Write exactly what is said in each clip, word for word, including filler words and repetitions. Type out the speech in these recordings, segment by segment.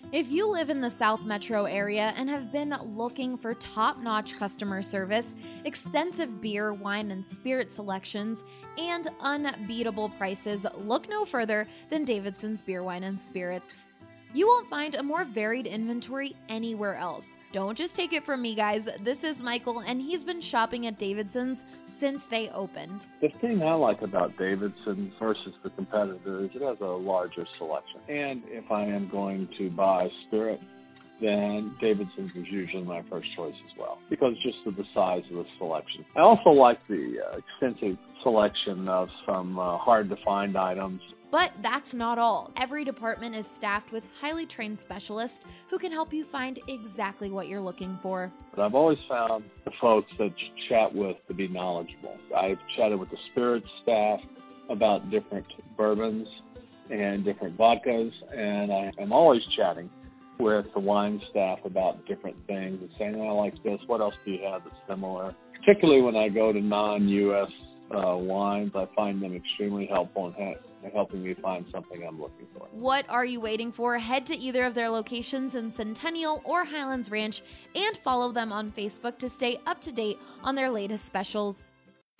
If you live in the South Metro area and have been looking for top-notch customer service, extensive beer, wine, and spirit selections, and unbeatable prices, look no further than Davidson's Beer, Wine, and Spirits. You won't find a more varied inventory anywhere else. Don't just take it from me, guys. This is Michael, and he's been shopping at Davidson's since they opened. The thing I like about Davidson's versus the competitor is it has a larger selection. And if I am going to buy spirit, then Davidson's is usually my first choice as well, because just of the size of the selection. I also like the uh, extensive selection of some uh, hard-to-find items. But that's not all. Every department is staffed with highly trained specialists who can help you find exactly what you're looking for. But I've always found the folks that you chat with to be knowledgeable. I've chatted with the spirits staff about different bourbons and different vodkas, and I am always chatting with the wine staff about different things and saying, oh, I like this, what else do you have that's similar? Particularly when I go to non-U S uh, wines, I find them extremely helpful in ha- helping me find something I'm looking for. What are you waiting for? Head to either of their locations in Centennial or Highlands Ranch and follow them on Facebook to stay up to date on their latest specials.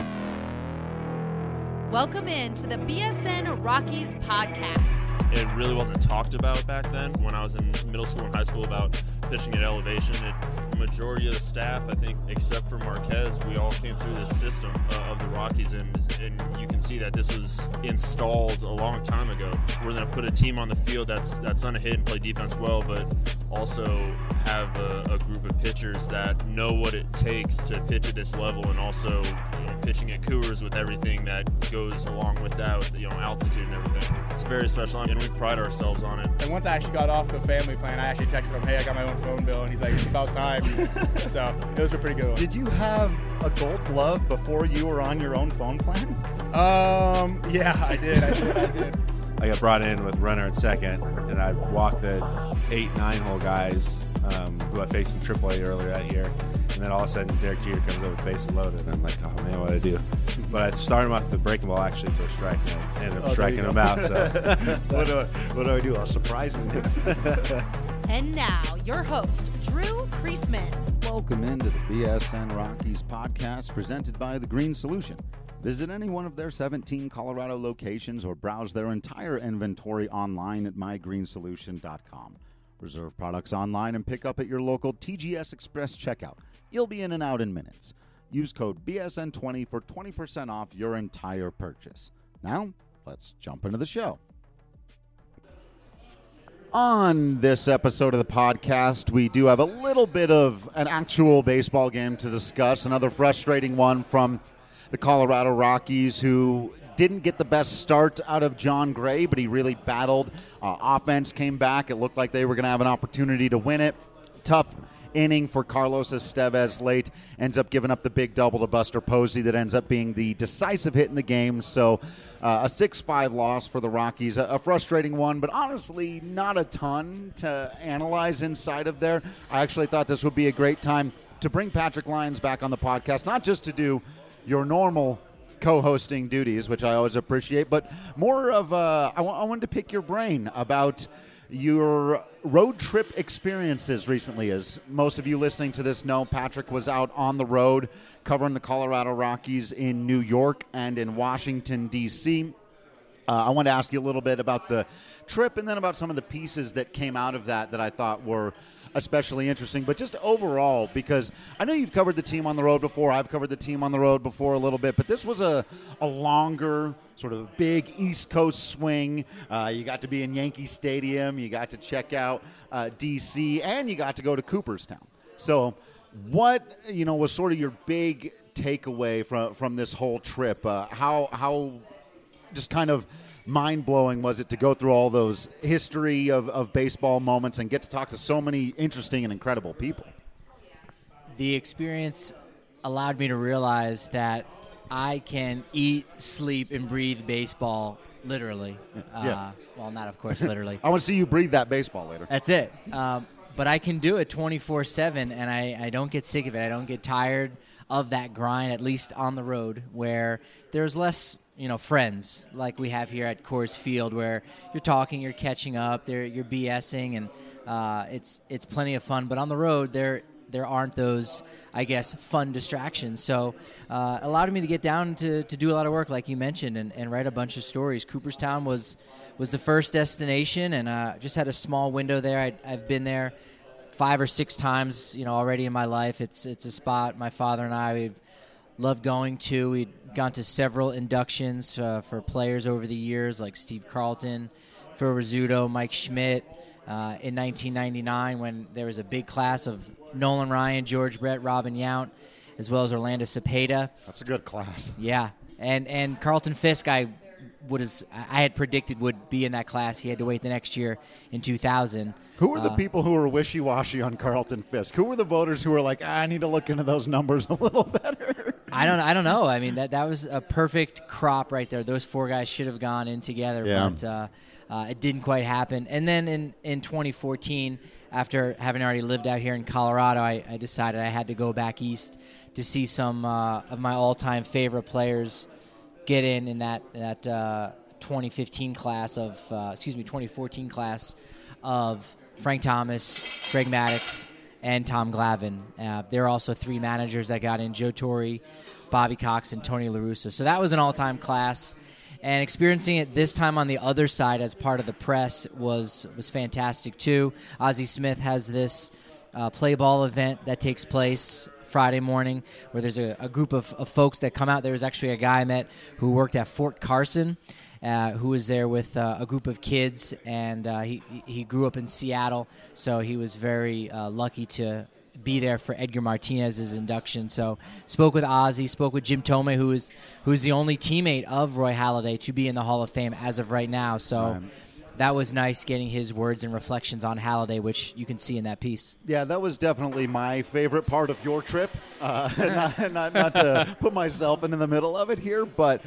Welcome in to the B S N Rockies podcast. It really wasn't talked about back then when I was in middle school and high school about pitching at elevation. It, the majority of the staff, I think, except for Marquez, we all came through this system uh, of the Rockies, and, and you can see that this was installed a long time ago. We're going to put a team on the field that's that's going to hit and play defense well, but also have a, a group of pitchers that know what it takes to pitch at this level, and also, you know, pitching at Coors with everything that goes along with that, with, you know, altitude and everything. It's very special, and we pride ourselves on it. And once I actually got off the family plan, I actually texted him, hey, I got my own phone bill, and he's like, it's about time. So those were pretty good ones. Did you have a gold glove before you were on your own phone plan? Um, yeah, I did, I did, I did. I got brought in with runner at second, and I walked the eight, nine-hole guys um, who I faced in triple A earlier that year. And then all of a sudden, Derek Jeter comes over with bases loaded, and I'm like, oh, man, what do I do? But I started him off with the breaking ball, actually, for a strike, and I ended up oh, striking him out. So what, do I, what do I do? I'll surprise him. And now, your host, Drew Priestman. Welcome into the B S N Rockies podcast presented by The Green Solution. Visit any one of their seventeen Colorado locations or browse their entire inventory online at my green solution dot com. Reserve products online and pick up at your local T G S Express checkout. You'll be in and out in minutes. Use code B S N twenty for twenty percent off your entire purchase. Now, let's jump into the show. On this episode of the podcast, we do have a little bit of an actual baseball game to discuss, another frustrating one from the Colorado Rockies, who didn't get the best start out of John Gray, but he really battled. Uh, offense came back. It looked like they were going to have an opportunity to win it. Tough inning for Carlos Estevez late. Ends up giving up the big double to Buster Posey that ends up being the decisive hit in the game. So uh, a six five loss for the Rockies. A, a frustrating one, but honestly not a ton to analyze inside of there. I actually thought this would be a great time to bring Patrick Lyons back on the podcast, not just to do your normal co-hosting duties, which I always appreciate, but more of uh, I, w- I wanted to pick your brain about your road trip experiences recently. As most of you listening to this know, Patrick was out on the road covering the Colorado Rockies in New York and in Washington, D C Uh, I wanted to ask you a little bit about the trip and then about some of the pieces that came out of that that I thought were especially interesting, but just overall, because I know you've covered the team on the road before. I've covered the team on the road before a little bit, but this was a, a longer, sort of big East Coast swing. Uh, you got to be in Yankee Stadium. You got to check out uh, D C, and you got to go to Cooperstown. So what, you know, was sort of your big takeaway from, from this whole trip? Uh, how, how just kind of mind-blowing was it to go through all those history of, of baseball moments and get to talk to so many interesting and incredible people? The experience allowed me to realize that I can eat, sleep, and breathe baseball literally. Yeah. Uh, well, not, of course, literally. I want to see you breathe that baseball later. That's it. Um, but I can do it twenty-four seven, and I, I don't get sick of it. I don't get tired of that grind, at least on the road, where there's less – you know, friends like we have here at Coors Field, where you're talking, you're catching up, you're BSing, and uh, it's it's plenty of fun. But on the road, there there aren't those, I guess, fun distractions. So uh, allowed me to get down to, to do a lot of work, like you mentioned, and, and write a bunch of stories. Cooperstown was was the first destination, and uh, just had a small window there. I'd, I've been there five or six times, you know, already in my life. It's it's a spot my father and I we've loved going to. We'd gone to several inductions uh, for players over the years, like Steve Carlton, Phil Rizzuto, Mike Schmidt. Uh, in nineteen ninety-nine, when there was a big class of Nolan Ryan, George Brett, Robin Yount, as well as Orlando Cepeda. That's a good class. Yeah, and and Carlton Fisk, I would has, I had predicted would be in that class. He had to wait the next year in two thousand. Who were the uh, people who were wishy-washy on Carlton Fisk? Who were the voters who were like, ah, I need to look into those numbers a little better? I don't I don't know. I mean, that that was a perfect crop right there. Those four guys should have gone in together, yeah. but uh, uh, it didn't quite happen. And then in, in twenty fourteen, after having already lived out here in Colorado, I, I decided I had to go back east to see some uh, of my all-time favorite players get in in that that uh, twenty fifteen class of uh, excuse me twenty fourteen class of Frank Thomas, Greg Maddux, and Tom Glavine. Uh, there are also three managers that got in: Joe Torre, Bobby Cox, and Tony La Russa. So that was an all-time class. And experiencing it this time on the other side as part of the press was was fantastic too. Ozzie Smith has this uh, play ball event that takes place Friday morning where there's a, a group of, of folks that come out. There was actually a guy I met who worked at Fort Carson, uh, who was there with uh, a group of kids, and uh, he he grew up in Seattle, so he was very uh, lucky to be there for Edgar Martinez's induction. So spoke with Ozzie, spoke with Jim Thome, who is who's the only teammate of Roy Halladay to be in the Hall of Fame as of right now. So Right. that was nice getting his words and reflections on Halladay, which you can see in that piece. Yeah, that was definitely my favorite part of your trip. Uh, not, not, not to put myself into the middle of it here, but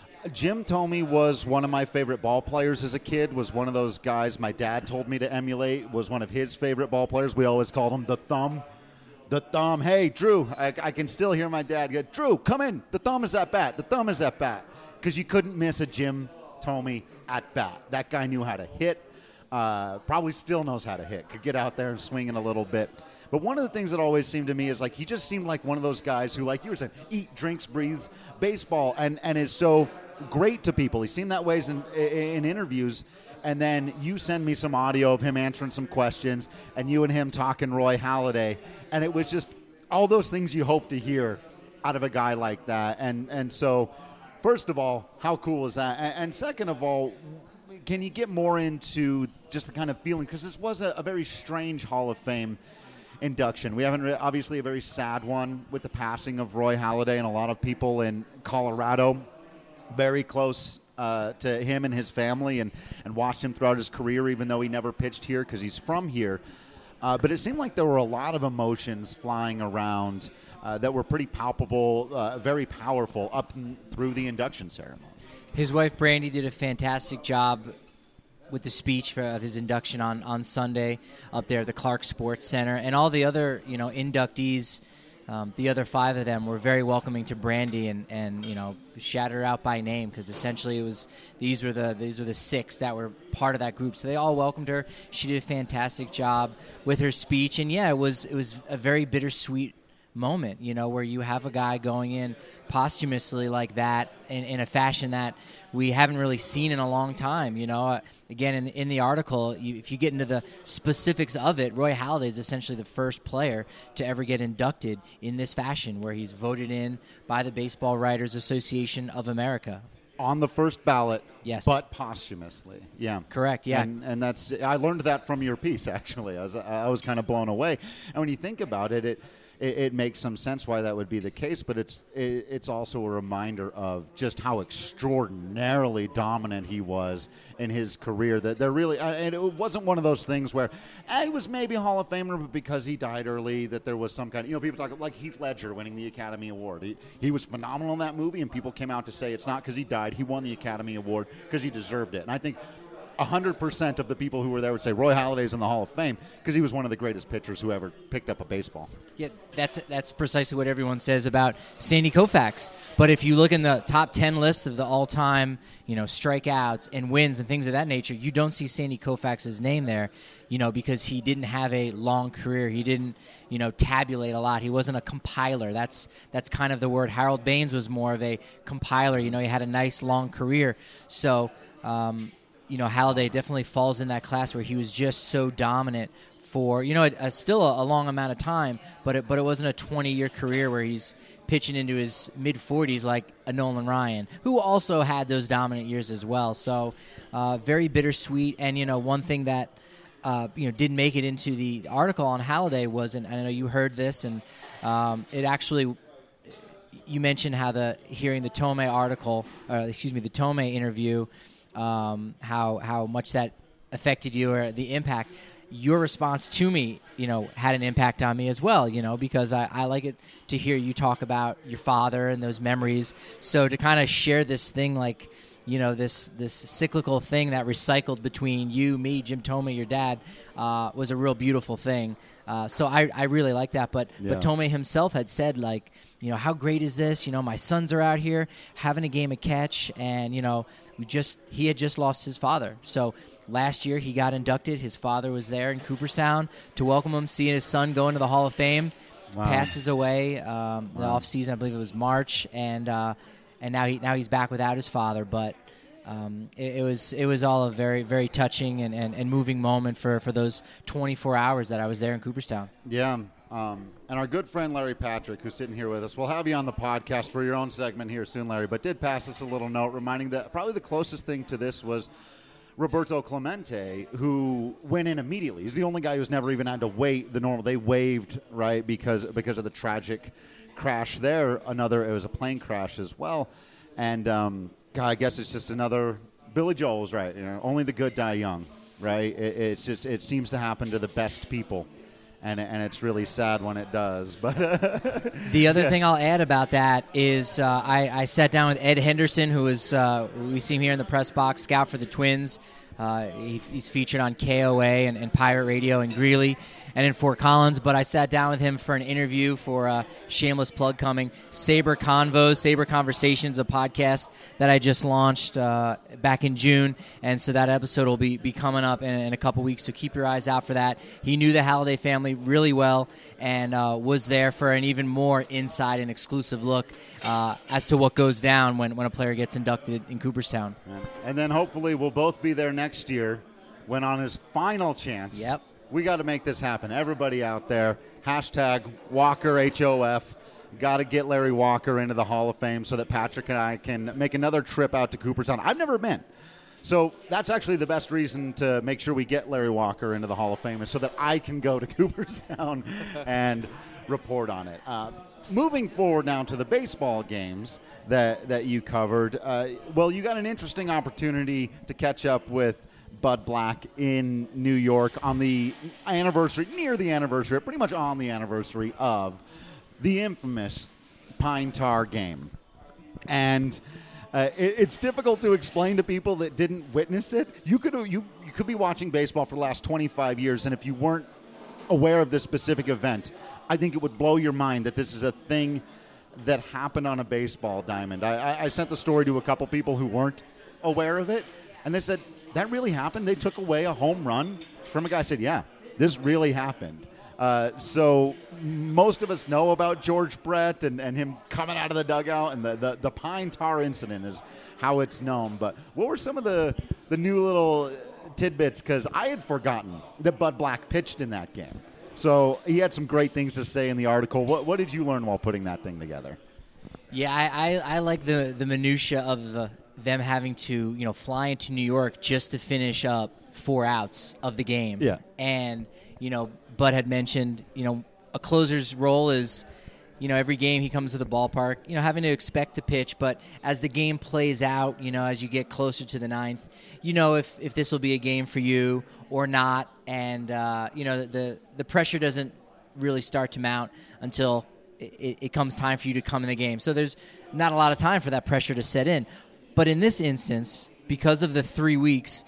Jim Thome was one of my favorite ball players as a kid, was one of those guys my dad told me to emulate, was one of his favorite ball players. We always called him the Thumb. The Thumb. Hey, Drew, I, I can still hear my dad go, Drew, come in. The Thumb is at bat. The Thumb is at bat. Because you couldn't miss a Jim Thome at bat. That guy knew how to hit, uh, probably still knows how to hit, could get out there and swing it a little bit. But one of the things that always seemed to me is like he just seemed like one of those guys who, like you were saying, eat, drinks, breathes baseball, and, and is so great to people. He seemed that way in, in interviews. And then you send me some audio of him answering some questions, and you and him talking Roy Halladay, and it was just all those things you hope to hear out of a guy like that. And and so, first of all, how cool is that? And, and second of all, can you get more into just the kind of feeling? Because this was a, a very strange Hall of Fame induction. We haven't re- obviously a very sad one with the passing of Roy Halladay, and a lot of people in Colorado very close Uh, to him and his family, and, and watched him throughout his career, even though he never pitched here because he's from here. Uh, but it seemed like there were a lot of emotions flying around uh, that were pretty palpable, uh, very powerful up and through the induction ceremony. His wife, Brandy, did a fantastic job with the speech for, of his induction on, on Sunday up there at the Clark Sports Center. And all the other, you know, inductees, Um, the other five of them were very welcoming to Brandy, and, and you know, shouted her out by name, because essentially it was these were the these were the six that were part of that group. So they all welcomed her. She did a fantastic job with her speech, and yeah, it was it was a very bittersweet moment, you know, where you have a guy going in posthumously like that in, in a fashion that we haven't really seen in a long time. You know, uh, again, in, in the article, you, if you get into the specifics of it, Roy Halladay is essentially the first player to ever get inducted in this fashion, where he's voted in by the Baseball Writers Association of America. On the first ballot, yes, but posthumously. Yeah, correct. Yeah, and, and that's I learned that from your piece. Actually, I was I was kind of blown away. And when you think about it, it it, it makes some sense why that would be the case. But it's it, it's also a reminder of just how extraordinarily dominant he was in his career. That there really, and it wasn't one of those things where eh, he was maybe a Hall of Famer, but because he died early, that there was some kind of, you know, people talk like Heath Ledger winning the Academy Award. He, he was phenomenal in that movie, and people came out to say it's not because he died. He won the Academy Award because he deserved it. And I think one hundred percent of the people who were there would say Roy Halladay's in the Hall of Fame because he was one of the greatest pitchers who ever picked up a baseball. Yeah, that's that's precisely what everyone says about Sandy Koufax. But if you look in the top ten lists of the all-time, you know, strikeouts and wins and things of that nature, you don't see Sandy Koufax's name there, you know, because he didn't have a long career. He didn't, you know, tabulate a lot. He wasn't a compiler. That's that's kind of the word. Harold Baines was more of a compiler. You know, he had a nice long career. So, um, you know, Halladay definitely falls in that class where he was just so dominant for, you know, a, a, still a, a long amount of time, but it, but it wasn't a twenty-year career where he's pitching into his mid-forties like a Nolan Ryan, who also had those dominant years as well. So uh, very bittersweet. And, you know, one thing that, uh, you know, didn't make it into the article on Halladay was, and I know you heard this, and um, it actually, you mentioned how the, hearing the Tomei article, or excuse me, the Tomei interview, um, how, how much that affected you or the impact. Your response to me, you know, had an impact on me as well, you know, because I, I like it to hear you talk about your father and those memories. So to kind of share this thing, like, you know, this this cyclical thing that recycled between you, me, Jim Tomei, your dad, uh, was a real beautiful thing. Uh, so I, I really like that. But Yeah. but Tomei himself had said, like, you know, how great is this? You know, my sons are out here having a game of catch, and, you know, we just he had just lost his father. So last year he got inducted. His father was there in Cooperstown to welcome him, seeing his son go into the Hall of Fame. Wow. Passes away um, the Wow. off season. I believe it was March, and uh, and now he now he's back without his father. But um, it, it was it was all a very very touching and, and, and moving moment for, for those twenty-four hours that I was there in Cooperstown. Yeah. Um, and our good friend Larry Patrick, who's sitting here with us, we'll have you on the podcast for your own segment here soon, Larry, but did pass us a little note reminding that probably the closest thing to this was Roberto Clemente, who went in immediately. He's the only guy who's never even had to wait the normal. They waived, right, because because of the tragic crash there. Another, it was a plane crash as well. And, um, God, I guess it's just another, Billy Joel was right, you know, only the good die young, right? It, it's just, it seems to happen to the best people. And, and it's really sad when it does. But the other thing I'll add about that is uh, I, I sat down with Ed Henderson, who is uh, we see him here in the press box, scout for the Twins. Uh, he, he's featured on K O A and, and Pirate Radio in Greeley and in Fort Collins. But I sat down with him for an interview for a shameless plug coming, Saber Convos, Saber Conversations, a podcast that I just launched uh, back in June. And so that episode will be, be coming up in, in a couple weeks, so keep your eyes out for that. He knew the Halladay family really well and uh, was there for an even more inside and exclusive look uh, as to what goes down when, when a player gets inducted in Cooperstown. And then hopefully we'll both be there next year when on his final chance. Yep. We got to make this happen. Everybody out there, hashtag Walker H O F. Got to get Larry Walker into the Hall of Fame so that Patrick and I can make another trip out to Cooperstown. I've never been. So that's actually the best reason to make sure we get Larry Walker into the Hall of Fame is so that I can go to Cooperstown and report on it. Uh, moving forward now to the baseball games that, that you covered, uh, well, you got an interesting opportunity to catch up with Bud Black in New York on the anniversary, near the anniversary, pretty much on the anniversary of the infamous Pine Tar game. And uh, it, it's difficult to explain to people that didn't witness it. You could you you could be watching baseball for the last twenty-five years, and if you weren't aware of this specific event, I think it would blow your mind that this is a thing that happened on a baseball diamond. I, I, I sent the story to a couple people who weren't aware of it, and they said, that really happened? They took away a home run from a guy. I said, yeah, this really happened. Uh, so most of us know about George Brett and, and him coming out of the dugout, and the, the, the Pine Tar incident is how it's known. But what were some of the, the new little tidbits? Because I had forgotten that Bud Black pitched in that game. So he had some great things to say in the article. What, what did you learn while putting that thing together? Yeah, I, I, I like the, the minutia of the them having to, you know, fly into New York just to finish up four outs of the game. Yeah. And, you know, Bud had mentioned, you know, a closer's role is, you know, every game he comes to the ballpark, you know, having to expect to pitch, but as the game plays out, you know, as you get closer to the ninth, you know, if, if this will be a game for you or not. And, uh, you know, the, the pressure doesn't really start to mount until it, it comes time for you to come in the game. So there's not a lot of time for that pressure to set in. But in this instance, because of the three weeks,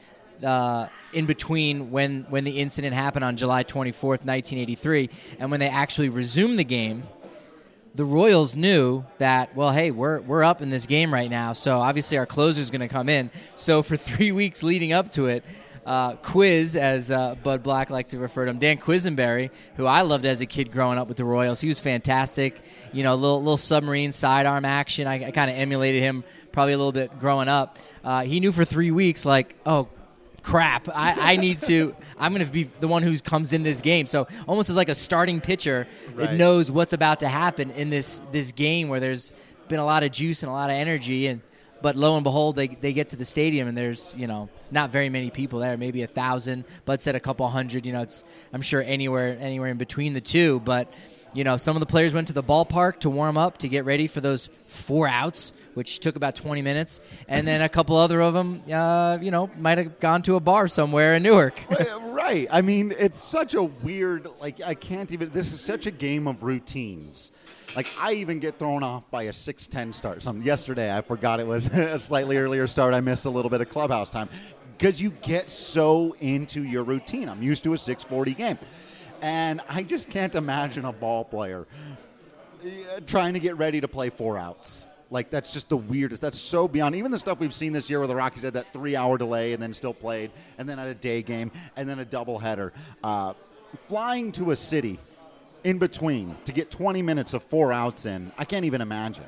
uh, in between when, when the incident happened on July twenty-fourth, nineteen eighty-three, and when they actually resumed the game, the Royals knew that, well, hey, we're we're up in this game right now, so obviously our closer's going to come in. So for three weeks leading up to it, uh, Quiz, as uh, Bud Black liked to refer to him, Dan Quisenberry, who I loved as a kid growing up with the Royals, he was fantastic. You know, little little submarine sidearm action. I, I kind of emulated him probably a little bit growing up. Uh, he knew for three weeks, like, oh, crap, I, I need to, I'm going to be the one who comes in this game. So almost as like a starting pitcher, Right. it knows what's about to happen in this this game where there's been a lot of juice and a lot of energy. And but lo and behold, they they get to the stadium and there's, you know, not very many people there, maybe a thousand. Bud said a couple hundred. You know, it's I'm sure anywhere anywhere in between the two. But, you know, some of the players went to the ballpark to warm up, to get ready for those four outs, which took about twenty minutes. And then a couple other of them, uh, you know, might have gone to a bar somewhere in Newark. Right. I mean, it's such a weird, like, I can't even, this is such a game of routines. Like, I even get thrown off by a six ten start. Some yesterday, I forgot it was a slightly earlier start. I missed a little bit of clubhouse time because you get so into your routine. I'm used to a six forty game. And I just can't imagine a ball player uh, trying to get ready to play four outs. Like, that's just the weirdest. That's so beyond. Even the stuff we've seen this year where the Rockies had that three-hour delay and then still played, and then had a day game, and then a doubleheader. Uh, flying to a city in between to get twenty minutes of four outs in, I can't even imagine.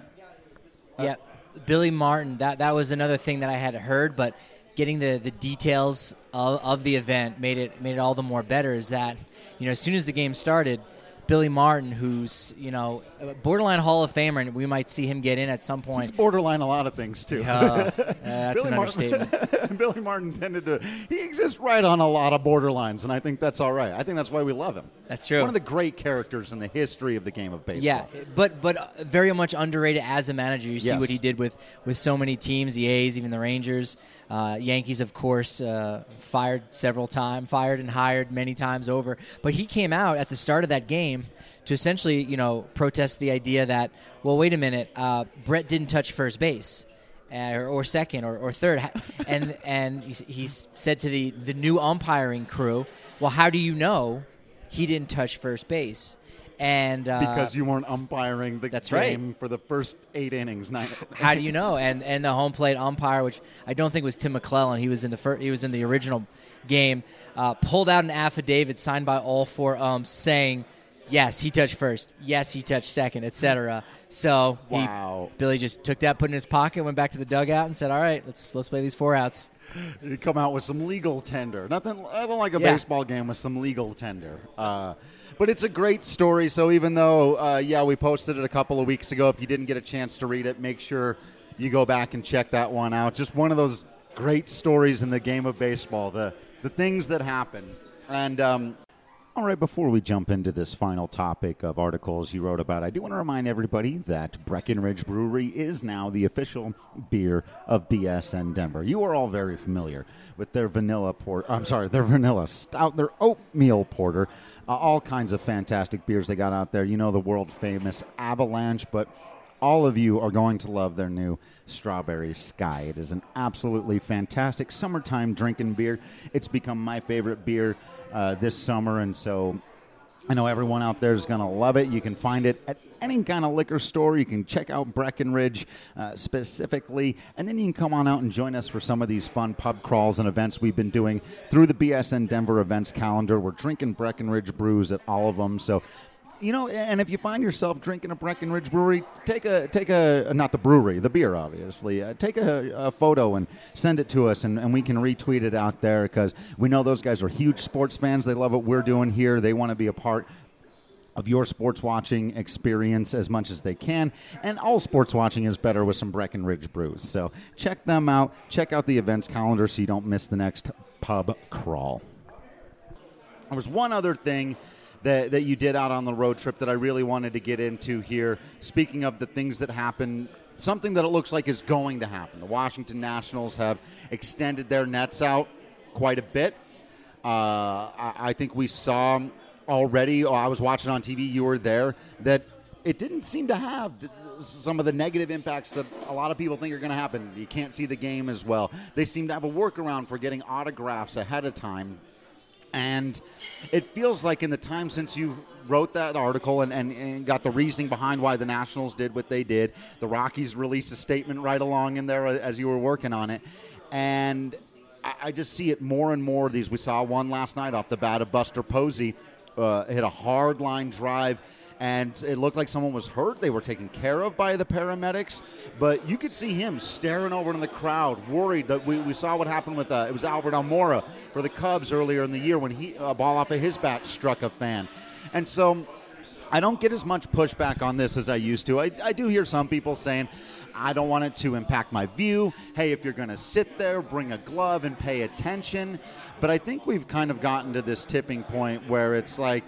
Yeah, Billy Martin, that, that was another thing that I had heard, but getting the, the details of, of the event made it made it all the more better is that, you know, as soon as the game started, Billy Martin, who's, you know, a borderline Hall of Famer, and we might see him get in at some point. He's borderline a lot of things, too. Uh, that's Billy an Martin, understatement. Billy Martin tended to, he exists right on a lot of borderlines, and I think that's all right. I think that's why we love him. That's true. One of the great characters in the history of the game of baseball. Yeah, but but very much underrated as a manager. You see Yes. what he did with, with so many teams, the A's, even the Rangers. Uh, Yankees, of course, uh, fired several times, fired and hired many times over. But he came out at the start of that game to essentially, you know, protest the idea that, well, wait a minute, uh, Brett didn't touch first base. Uh, or, or second or, or third. And and he, he said to the, the new umpiring crew, well, how do you know he didn't touch first base? And uh, Because you weren't umpiring the that's game right. for the first eight innings. Nine. How do you know? And and the home plate umpire, which I don't think was Tim McClellan, he was in the fir- he was in the original game, uh, pulled out an affidavit signed by all four umps saying, yes, he touched first. Yes, he touched second, et cetera. So he, Wow. Billy just took that, put it in his pocket, went back to the dugout, and said, "All right, let's let's play these four outs." You come out with some legal tender. Nothing, nothing like a Yeah. baseball game with some legal tender. Uh, but it's a great story. So even though, uh, yeah, we posted it a couple of weeks ago, if you didn't get a chance to read it, make sure you go back and check that one out. Just one of those great stories in the game of baseball, the the things that happen. And um, all right, before we jump into this final topic of articles you wrote about, I do want to remind everybody that Breckenridge Brewery is now the official beer of B S N Denver. You are all very familiar with their vanilla port. I'm sorry, their vanilla stout, their oatmeal porter, uh, all kinds of fantastic beers they got out there. You know the world famous Avalanche, but all of you are going to love their new Strawberry Sky. It is an absolutely fantastic summertime drinking beer. It's become my favorite beer Uh, this summer, and so I know everyone out there is going to love it. You can find it at any kind of liquor store. You can check out Breckenridge uh, specifically, and then you can come on out and join us for some of these fun pub crawls and events we've been doing through the B S N Denver events calendar. We're drinking Breckenridge brews at all of them, so you know, and if you find yourself drinking a Breckenridge brewery, take a, take a not the brewery, the beer, obviously. Uh, take a, a photo and send it to us, and, and we can retweet it out there because we know those guys are huge sports fans. They love what we're doing here. They want to be a part of your sports watching experience as much as they can. And all sports watching is better with some Breckenridge brews. So check them out. Check out the events calendar so you don't miss the next pub crawl. There was one other thing that, that you did out on the road trip that I really wanted to get into here. Speaking of the things that happen, something that it looks like is going to happen. The Washington Nationals have extended their nets out quite a bit. Uh, I, I think we saw already, oh, I was watching on T V, you were there, that it didn't seem to have th- some of the negative impacts that a lot of people think are going to happen. You can't see the game as well. They seem to have a workaround for getting autographs ahead of time. And it feels like in the time since you wrote that article and, and, and got the reasoning behind why the Nationals did what they did, the Rockies released a statement right along in there as you were working on it. And I, I just see it more and more of these. We saw one last night off the bat of Buster Posey, uh, hit a hard line drive, and it looked like someone was hurt. They were taken care of by the paramedics, but you could see him staring over in the crowd, worried that we, we saw what happened with, uh, it was Albert Almora for the Cubs earlier in the year when he a ball off of his bat struck a fan. And so I don't get as much pushback on this as I used to. I, I do hear some people saying, I don't want it to impact my view. Hey, if you're going to sit there, bring a glove and pay attention. But I think we've kind of gotten to this tipping point where it's like,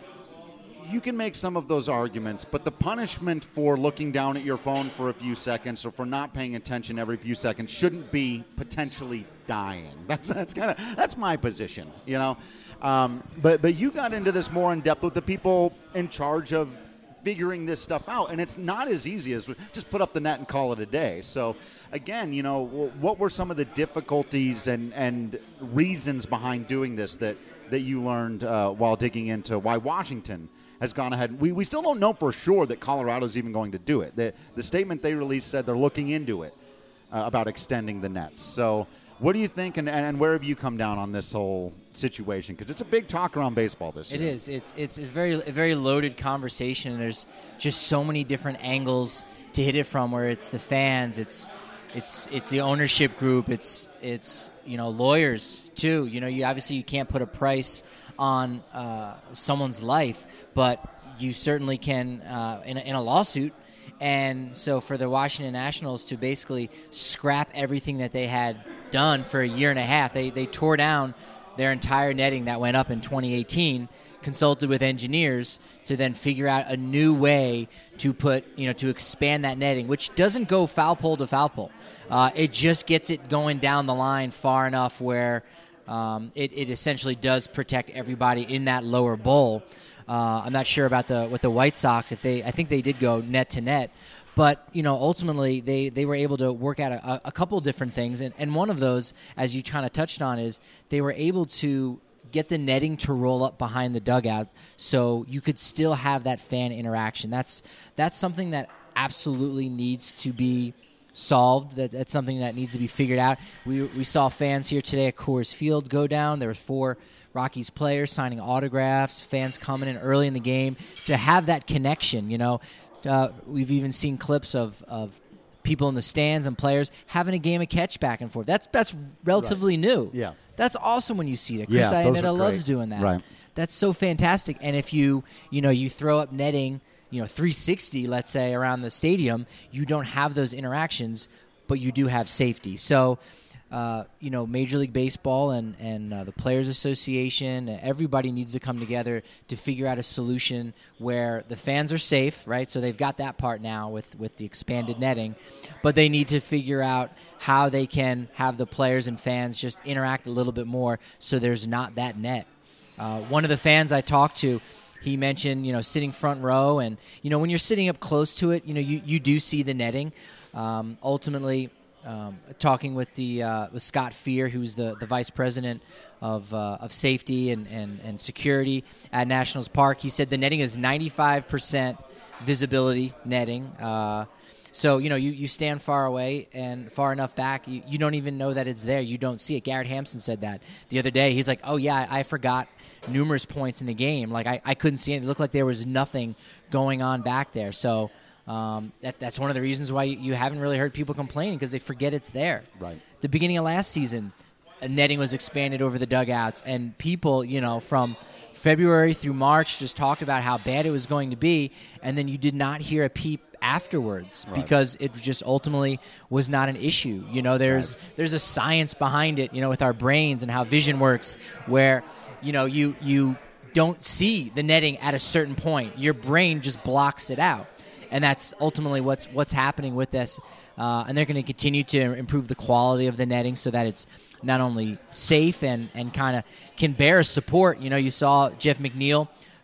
you can make some of those arguments, but the punishment for looking down at your phone for a few seconds or for not paying attention every few seconds shouldn't be potentially dying. That's that's kind of that's my position, you know. Um, but but you got into this more in depth with the people in charge of figuring this stuff out, and it's not as easy as just put up the net and call it a day. So again, you know, what were some of the difficulties and and reasons behind doing this that that you learned uh, while digging into why Washington has gone ahead? We we still don't know for sure that Colorado's even going to do it. The, the statement they released said they're looking into it uh, about extending the nets. So what do you think, and, and where have you come down on this whole situation? Because it's a big talk around baseball this year. It is. It's it's a very, a very loaded conversation, and there's just so many different angles to hit it from, where it's the fans, it's it's it's the ownership group, it's it's you know lawyers too. You know, you obviously you can't put a price on uh, someone's life, but you certainly can uh, in, a, in a lawsuit. And so for the Washington Nationals to basically scrap everything that they had done for a year and a half, they, they tore down their entire netting that went up in twenty eighteen, consulted with engineers to then figure out a new way to put, you know, to expand that netting, which doesn't go foul pole to foul pole. Uh, it just gets it going down the line far enough where Um, it, it essentially does protect everybody in that lower bowl. Uh, I'm not sure about the with the White Sox if they. I think they did go net to net, but you know ultimately they, they were able to work out a, a couple different things, and, and one of those, as you kind of touched on, is they were able to get the netting to roll up behind the dugout, so you could still have that fan interaction. That's that's something that absolutely needs to be solved. That that's something that needs to be figured out. We we saw fans here today at Coors Field go down. There were four Rockies players signing autographs, fans coming in early in the game to have that connection. You know, uh, we've even seen clips of, of people in the stands and players having a game of catch back and forth. That's that's relatively right. new. Yeah, that's awesome when you see that. Chris yeah, Iannetta loves doing that. Right. That's so fantastic. And if you you know you throw up netting, you know, three sixty, let's say, around the stadium, you don't have those interactions, but you do have safety. So, uh, you know, Major League Baseball and, and uh, the Players Association, everybody needs to come together to figure out a solution where the fans are safe, right? So they've got that part now with, with the expanded netting, but they need to figure out how they can have the players and fans just interact a little bit more so there's not that net. Uh, one of the fans I talked to, he mentioned, you know, sitting front row, and, you know, when you're sitting up close to it, you know, you, you do see the netting. Um, ultimately, um, talking with the uh, with Scott Fear, who's the, the vice president of uh, of safety and, and, and security at Nationals Park, he said the netting is ninety-five percent visibility netting. Uh, so, you know, you, you stand far away and far enough back, you, you don't even know that it's there. You don't see it. Garrett Hampson said that the other day. He's like, oh, yeah, I, I forgot numerous points in the game. Like, I, I couldn't see it. It looked like there was nothing going on back there. So um, that that's one of the reasons why you, you haven't really heard people complaining, because they forget it's there. Right. The beginning of last season, a netting was expanded over the dugouts, and people, you know, from February through March just talked about how bad it was going to be, and then you did not hear a peep afterwards, right, because it just ultimately was not an issue. You know, there's right. there's a science behind it, you know, with our brains and how vision works, where, you know, you you don't see the netting at a certain point. Your brain just blocks it out. And that's ultimately what's what's happening with this. Uh, and they're going to continue to improve the quality of the netting so that it's not only safe and, and kind of can bear support. You know, you saw Jeff McNeil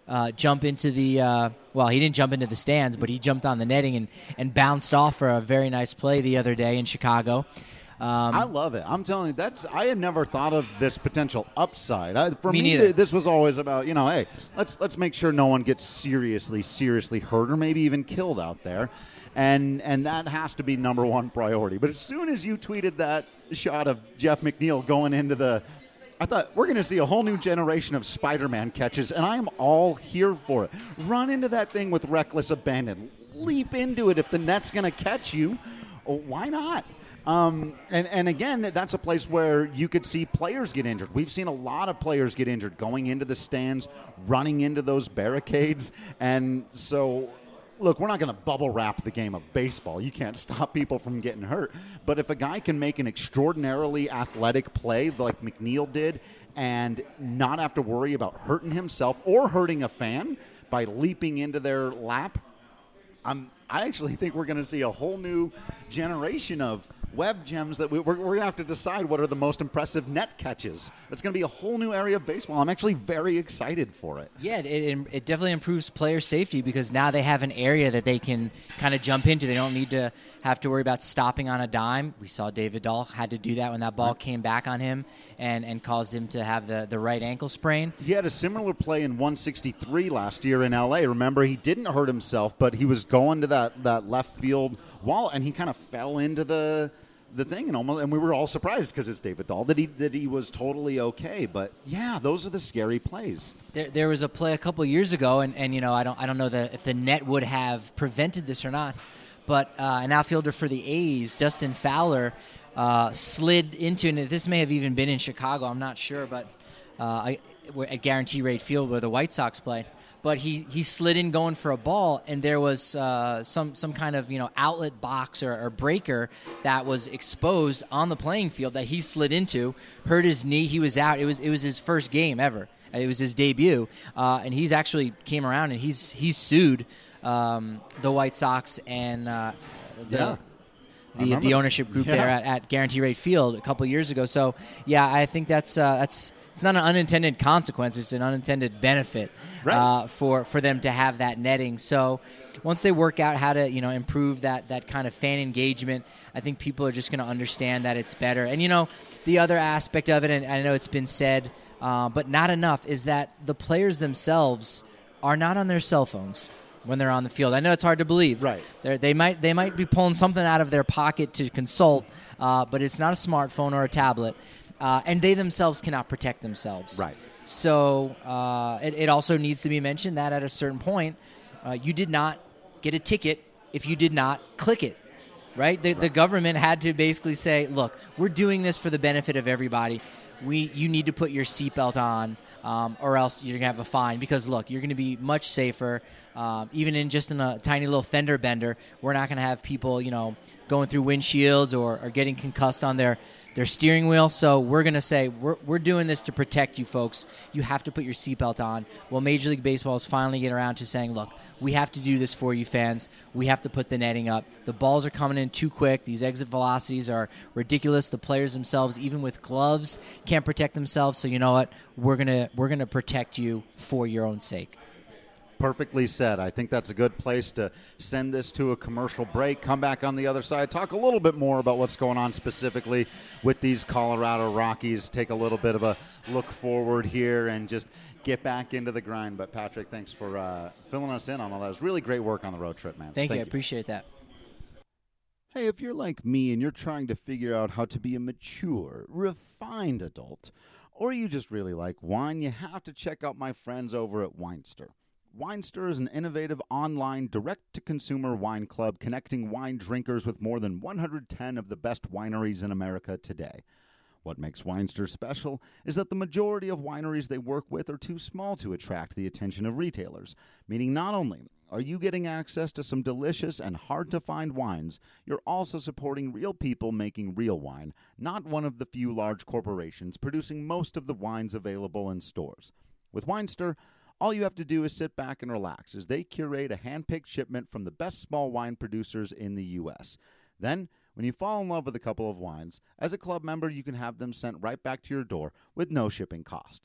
uh, jump into the uh, well, he didn't jump into the stands, but he jumped on the netting and, and bounced off for a very nice play the other day in Chicago. Um, I love it. I'm telling you, that's I had never thought of this potential upside. I, for Me me, neither. this was always about, you know, hey, let's let's make sure no one gets seriously, seriously hurt or maybe even killed out there. And and that has to be number one priority. But as soon as you tweeted that shot of Jeff McNeil going into the, I thought, we're going to see a whole new generation of Spider-Man catches, and I am all here for it. Run into that thing with reckless abandon. Leap into it if the net's going to catch you. Oh, why not? Um, and, and again, that's a place where you could see players get injured. We've seen a lot of players get injured going into the stands, running into those barricades. And so, look, we're not going to bubble wrap the game of baseball. You can't stop people from getting hurt. But if a guy can make an extraordinarily athletic play like McNeil did and not have to worry about hurting himself or hurting a fan by leaping into their lap, I'm, I actually think we're going to see a whole new generation of web gems that we, we're, we're going to have to decide what are the most impressive net catches. That's going to be a whole new area of baseball. I'm actually very excited for it. Yeah, it, it, it definitely improves player safety because now they have an area that they can kind of jump into. They don't need to have to worry about stopping on a dime. We saw David Dahl had to do that when that ball right. came back on him and, and caused him to have the, the right ankle sprain. He had a similar play in one sixty-three last year in L A. Remember, he didn't hurt himself, but he was going to that, that left field wall, and he kind of fell into the – the thing, and almost, and we were all surprised because it's David Dahl that he that he was totally okay. But yeah, those are the scary plays. There, there was a play a couple years ago, and, and you know I don't I don't know the, if the net would have prevented this or not, but uh, an outfielder for the A's, Dustin Fowler, uh, slid into, and this may have even been in Chicago. I'm not sure, but uh, I, at Guarantee Rate Field where the White Sox play. But he, he slid in going for a ball, and there was uh, some some kind of you know outlet box or, or breaker that was exposed on the playing field that he slid into, hurt his knee. He was out. It was it was his first game ever. It was his debut, uh, and he's actually came around and he's he's sued um, the White Sox and uh, the. Yeah. The, the ownership group yeah. there at, at Guarantee Rate Field a couple years ago. So yeah, I think that's uh, that's it's not an unintended consequence; it's an unintended benefit right. uh, for for them to have that netting. So once they work out how to you know improve that that kind of fan engagement, I think people are just going to understand that it's better. And you know the other aspect of it, and I know it's been said, uh, but not enough, is that the players themselves are not on their cell phones when they're on the field. I know it's hard to believe. Right. They're, they might they might be pulling something out of their pocket to consult, uh, but it's not a smartphone or a tablet, uh, and they themselves cannot protect themselves. Right. So uh, it, it also needs to be mentioned that at a certain point, uh, you did not get a ticket if you did not click it. Right? The, right. The government had to basically say, look, we're doing this for the benefit of everybody. We you need to put your seatbelt on. Um, or else you're going to have a fine because, look, you're going to be much safer. Um, even in just in a tiny little fender bender, we're not going to have people, you know, going through windshields or, or getting concussed on their, their steering wheel. So we're going to say we're we're doing this to protect you folks. You have to put your seatbelt on. Well, Major League Baseball is finally getting around to saying, look, we have to do this for you fans. We have to put the netting up. The balls are coming in too quick. These exit velocities are ridiculous. The players themselves, even with gloves, can't protect themselves. So you know what? We're gonna we're gonna protect you for your own sake. Perfectly said. I think that's a good place to send this to a commercial break. Come back on the other side. Talk a little bit more about what's going on specifically with these Colorado Rockies. Take a little bit of a look forward here and just get back into the grind. But, Patrick, thanks for uh, filling us in on all that. It was really great work on the road trip, man. Thank, Thank you. I appreciate that. Hey, if you're like me and you're trying to figure out how to be a mature, refined adult, or you just really like wine, you have to check out my friends over at Winester. Winester is an innovative online direct-to-consumer wine club connecting wine drinkers with more than one hundred ten of the best wineries in America today. What makes Winester special is that the majority of wineries they work with are too small to attract the attention of retailers, meaning not only are you getting access to some delicious and hard-to-find wines, you're also supporting real people making real wine, not one of the few large corporations producing most of the wines available in stores. With Winester, all you have to do is sit back and relax as they curate a hand-picked shipment from the best small wine producers in the U S. Then, when you fall in love with a couple of wines, as a club member, you can have them sent right back to your door with no shipping cost.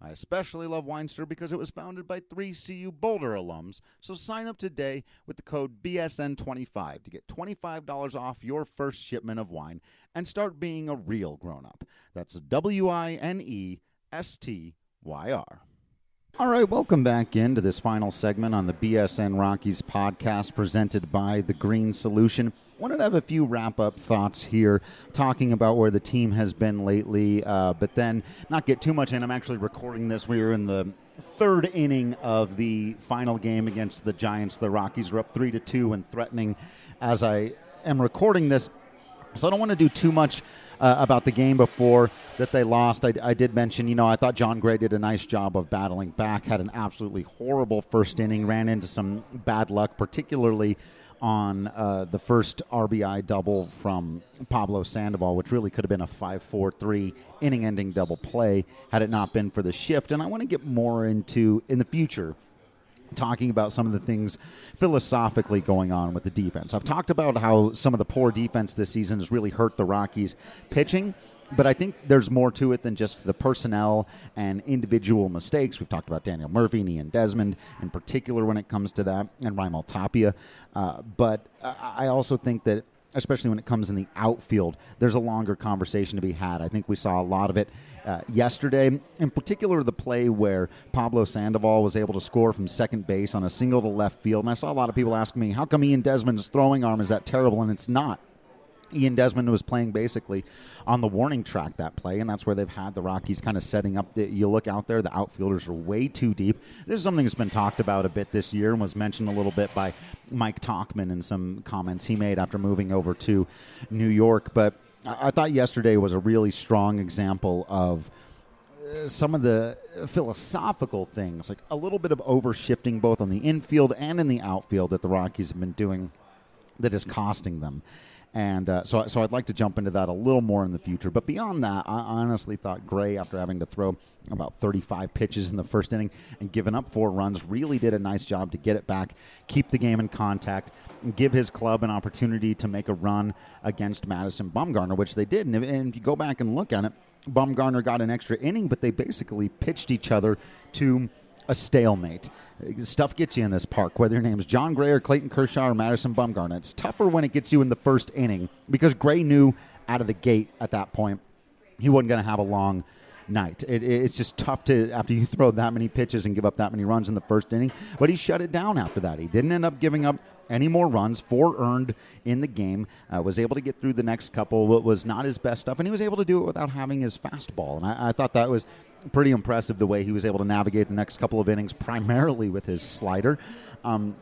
I especially love Weinster because it was founded by three C U Boulder alums, so sign up today with the code B S N twenty-five to get twenty-five dollars off your first shipment of wine and start being a real grown-up. That's W I N E S T Y R. All right, welcome back into this final segment on the B S N Rockies podcast presented by The Green Solution. Wanted to have a few wrap-up thoughts here, talking about where the team has been lately, uh, but then not get too much in. I'm actually recording this. We were in the third inning of the final game against the Giants. The Rockies were up three to two and threatening as I am recording this. So I don't want to do too much uh, about the game before that they lost. I, I did mention, you know, I thought John Gray did a nice job of battling back, had an absolutely horrible first inning, ran into some bad luck, particularly on uh, the first R B I double from Pablo Sandoval, which really could have been a five four three inning-ending double play had it not been for the shift. And I want to get more into, in the future, talking about some of the things philosophically going on with the defense. I've talked about how some of the poor defense this season has really hurt the Rockies' pitching, but I think there's more to it than just the personnel and individual mistakes. We've talked about Daniel Murphy and Ian Desmond in particular when it comes to that, and Raimel Tapia. Uh, but I also think that, especially when it comes in the outfield, there's a longer conversation to be had. I think we saw a lot of it uh, yesterday, in particular the play where Pablo Sandoval was able to score from second base on a single to left field. And I saw a lot of people asking me, how come Ian Desmond's throwing arm is that terrible? And it's not. Ian Desmond was playing basically on the warning track that play, and that's where they've had the Rockies kind of setting up. The, you look out there, the outfielders are way too deep. This is something that's been talked about a bit this year and was mentioned a little bit by Mike Tauchman in some comments he made after moving over to New York. But I, I thought yesterday was a really strong example of uh, some of the philosophical things, like a little bit of overshifting both on the infield and in the outfield that the Rockies have been doing that is costing them. And uh, so, so I'd like to jump into that a little more in the future. But beyond that, I honestly thought Gray, after having to throw about thirty-five pitches in the first inning and giving up four runs, really did a nice job to get it back, keep the game in contact, and give his club an opportunity to make a run against Madison Bumgarner, which they did. And if, and if you go back and look at it, Bumgarner got an extra inning, but they basically pitched each other to a stalemate. Stuff gets you in this park, whether your name's John Gray or Clayton Kershaw or Madison Bumgarner. It's tougher when it gets you in the first inning because Gray knew out of the gate at that point he wasn't going to have a long night. It, it's just tough to, after you throw that many pitches and give up that many runs in the first inning, but he shut it down after that. He didn't end up giving up any more runs, four earned in the game, uh, was able to get through the next couple, what was not his best stuff, and he was able to do it without having his fastball. And I, I thought that was pretty impressive the way he was able to navigate the next couple of innings, primarily with his slider. Um,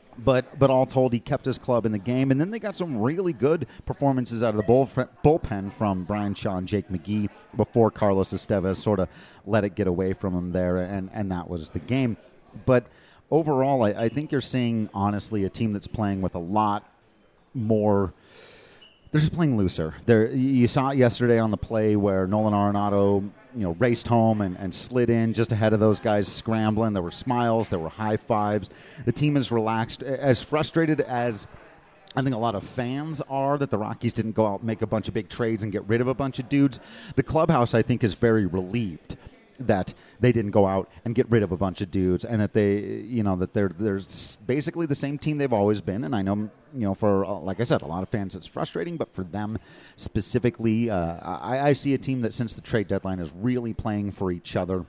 but but all told, he kept his club in the game. And then they got some really good performances out of the bull, bullpen from Brian Shaw and Jake McGee before Carlos Estevez sort of let it get away from him there, and, and that was the game. But overall, I, I think you're seeing, honestly, a team that's playing with a lot more. They're just playing looser. They're, you saw it yesterday on the play where Nolan Arenado, you know, raced home and, and slid in just ahead of those guys scrambling. There were smiles. There were high fives. The team is relaxed. As frustrated as I think a lot of fans are that the Rockies didn't go out and make a bunch of big trades and get rid of a bunch of dudes, the clubhouse, I think, is very relieved that they didn't go out and get rid of a bunch of dudes, and that they, you know, that they're they're basically the same team they've always been. And I know, you know, for like I said, a lot of fans it's frustrating, but for them specifically, uh, I, I see a team that since the trade deadline is really playing for each other.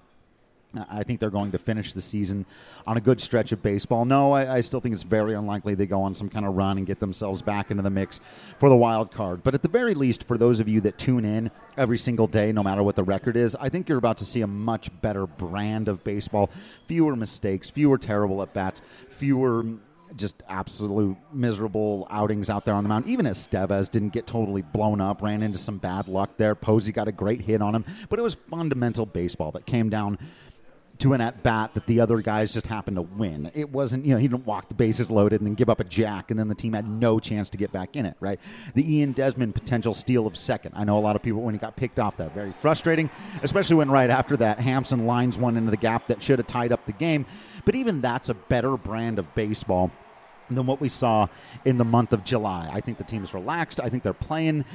I think they're going to finish the season on a good stretch of baseball. No, I, I still think it's very unlikely they go on some kind of run and get themselves back into the mix for the wild card. But at the very least, for those of you that tune in every single day, no matter what the record is, I think you're about to see a much better brand of baseball. Fewer mistakes, fewer terrible at-bats, fewer just absolute miserable outings out there on the mound. Even Estevez didn't get totally blown up, ran into some bad luck there. Posey got a great hit on him. But it was fundamental baseball that came down to an at-bat that the other guys just happened to win. It wasn't, you know, he didn't walk the bases loaded and then give up a jack, and then the team had no chance to get back in it, right? The Ian Desmond potential steal of second. I know a lot of people, when he got picked off that, very frustrating, especially when right after that, Hampson lines one into the gap that should have tied up the game. But even that's a better brand of baseball than what we saw in the month of July. I think the team's relaxed. I think they're playing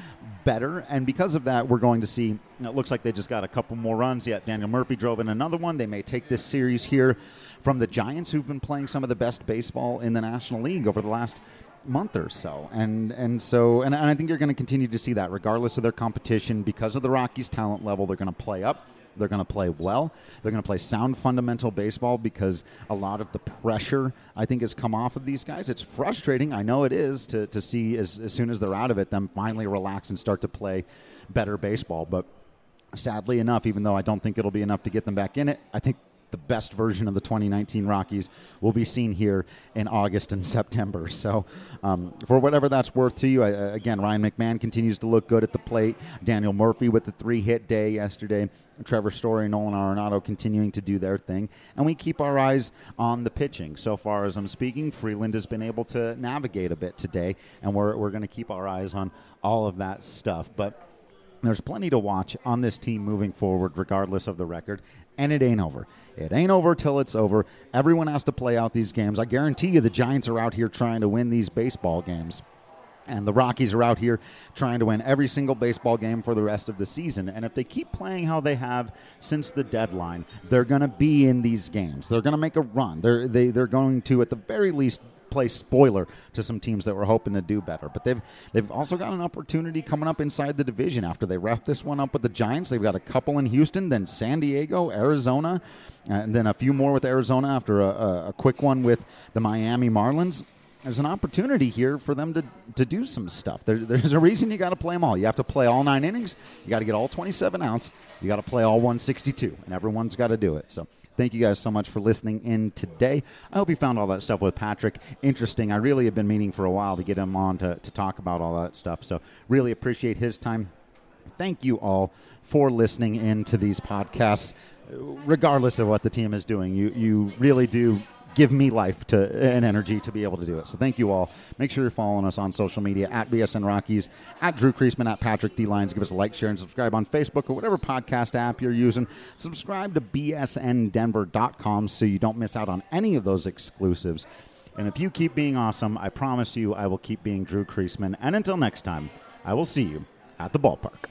better, and because of that, we're going to see, you know, it looks like they just got a couple more runs yet. Daniel Murphy drove in another one. They may take this series here from the Giants, who've been playing some of the best baseball in the National League over the last month or so. And and so, and, and I think you're going to continue to see that regardless of their competition. Because of the Rockies' talent level, they're going to play up. They're going to play well. They're going to play sound fundamental baseball because a lot of the pressure, I think, has come off of these guys. It's frustrating. I know it is to, to see as, as soon as they're out of it, them finally relax and start to play better baseball. But sadly enough, even though I don't think it'll be enough to get them back in it, I think the best version of the twenty nineteen Rockies will be seen here in August and September. So um, for whatever that's worth to you, I, again, Ryan McMahon continues to look good at the plate. Daniel Murphy with the three-hit day yesterday. Trevor Story, Nolan Arenado continuing to do their thing. And we keep our eyes on the pitching. So far as I'm speaking, Freeland has been able to navigate a bit today, and we're, we're going to keep our eyes on all of that stuff. But there's plenty to watch on this team moving forward, regardless of the record, and it ain't over. It ain't over till it's over. Everyone has to play out these games. I guarantee you the Giants are out here trying to win these baseball games, and the Rockies are out here trying to win every single baseball game for the rest of the season. And if they keep playing how they have since the deadline, they're going to be in these games. They're going to make a run. They're, they, they're going to, at the very least, play spoiler to some teams that were hoping to do better. But they've they've also got an opportunity coming up inside the division after they wrap this one up with the Giants. They've got a couple in Houston, then San Diego, Arizona, and then a few more with Arizona after a, a, a quick one with the Miami Marlins. There's an opportunity here for them to, to do some stuff. There, there's a reason you got to play them all. You have to play all nine innings. You got to get all twenty-seven outs. You got to play all one sixty-two, and everyone's got to do it. So thank you guys so much for listening in today. I hope you found all that stuff with Patrick interesting. I really have been meaning for a while to get him on to, to talk about all that stuff. So really appreciate his time. Thank you all for listening in to these podcasts, regardless of what the team is doing. You you really do give me life to and energy to be able to do it. So thank you all. Make sure you're following us on social media at B S N Rockies, at Drew Creasman, at Patrick D. Lyons. Give us a like, share, and subscribe on Facebook or whatever podcast app you're using. Subscribe to B S N Denver dot com so you don't miss out on any of those exclusives. And if you keep being awesome, I promise you I will keep being Drew Creasman. And until next time, I will see you at the ballpark.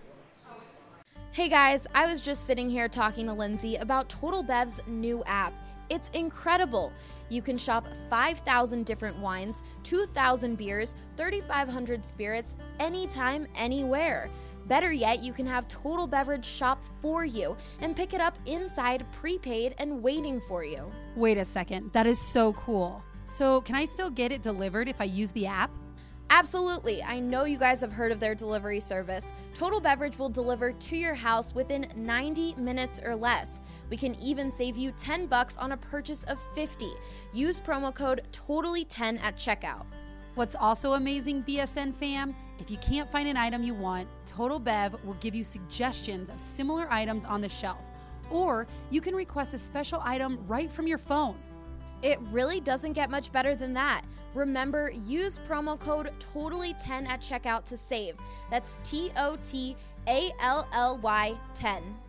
Hey guys, I was just sitting here talking to Lindsay about Total Bev's new app. It's incredible. You can shop five thousand different wines, two thousand beers, thirty-five hundred spirits, anytime, anywhere. Better yet, you can have Total Beverage shop for you and pick it up inside, prepaid, and waiting for you. Wait a second. That is so cool. So can I still get it delivered if I use the app? Absolutely. I know you guys have heard of their delivery service. Total Beverage will deliver to your house within ninety minutes or less. We can even save you ten bucks on a purchase of fifty. Use promo code totally ten at checkout. What's also amazing, B S N fam, if you can't find an item you want, Total Bev will give you suggestions of similar items on the shelf. Or you can request a special item right from your phone. It really doesn't get much better than that. Remember, use promo code totally ten at checkout to save. That's T O T A L L Y ten.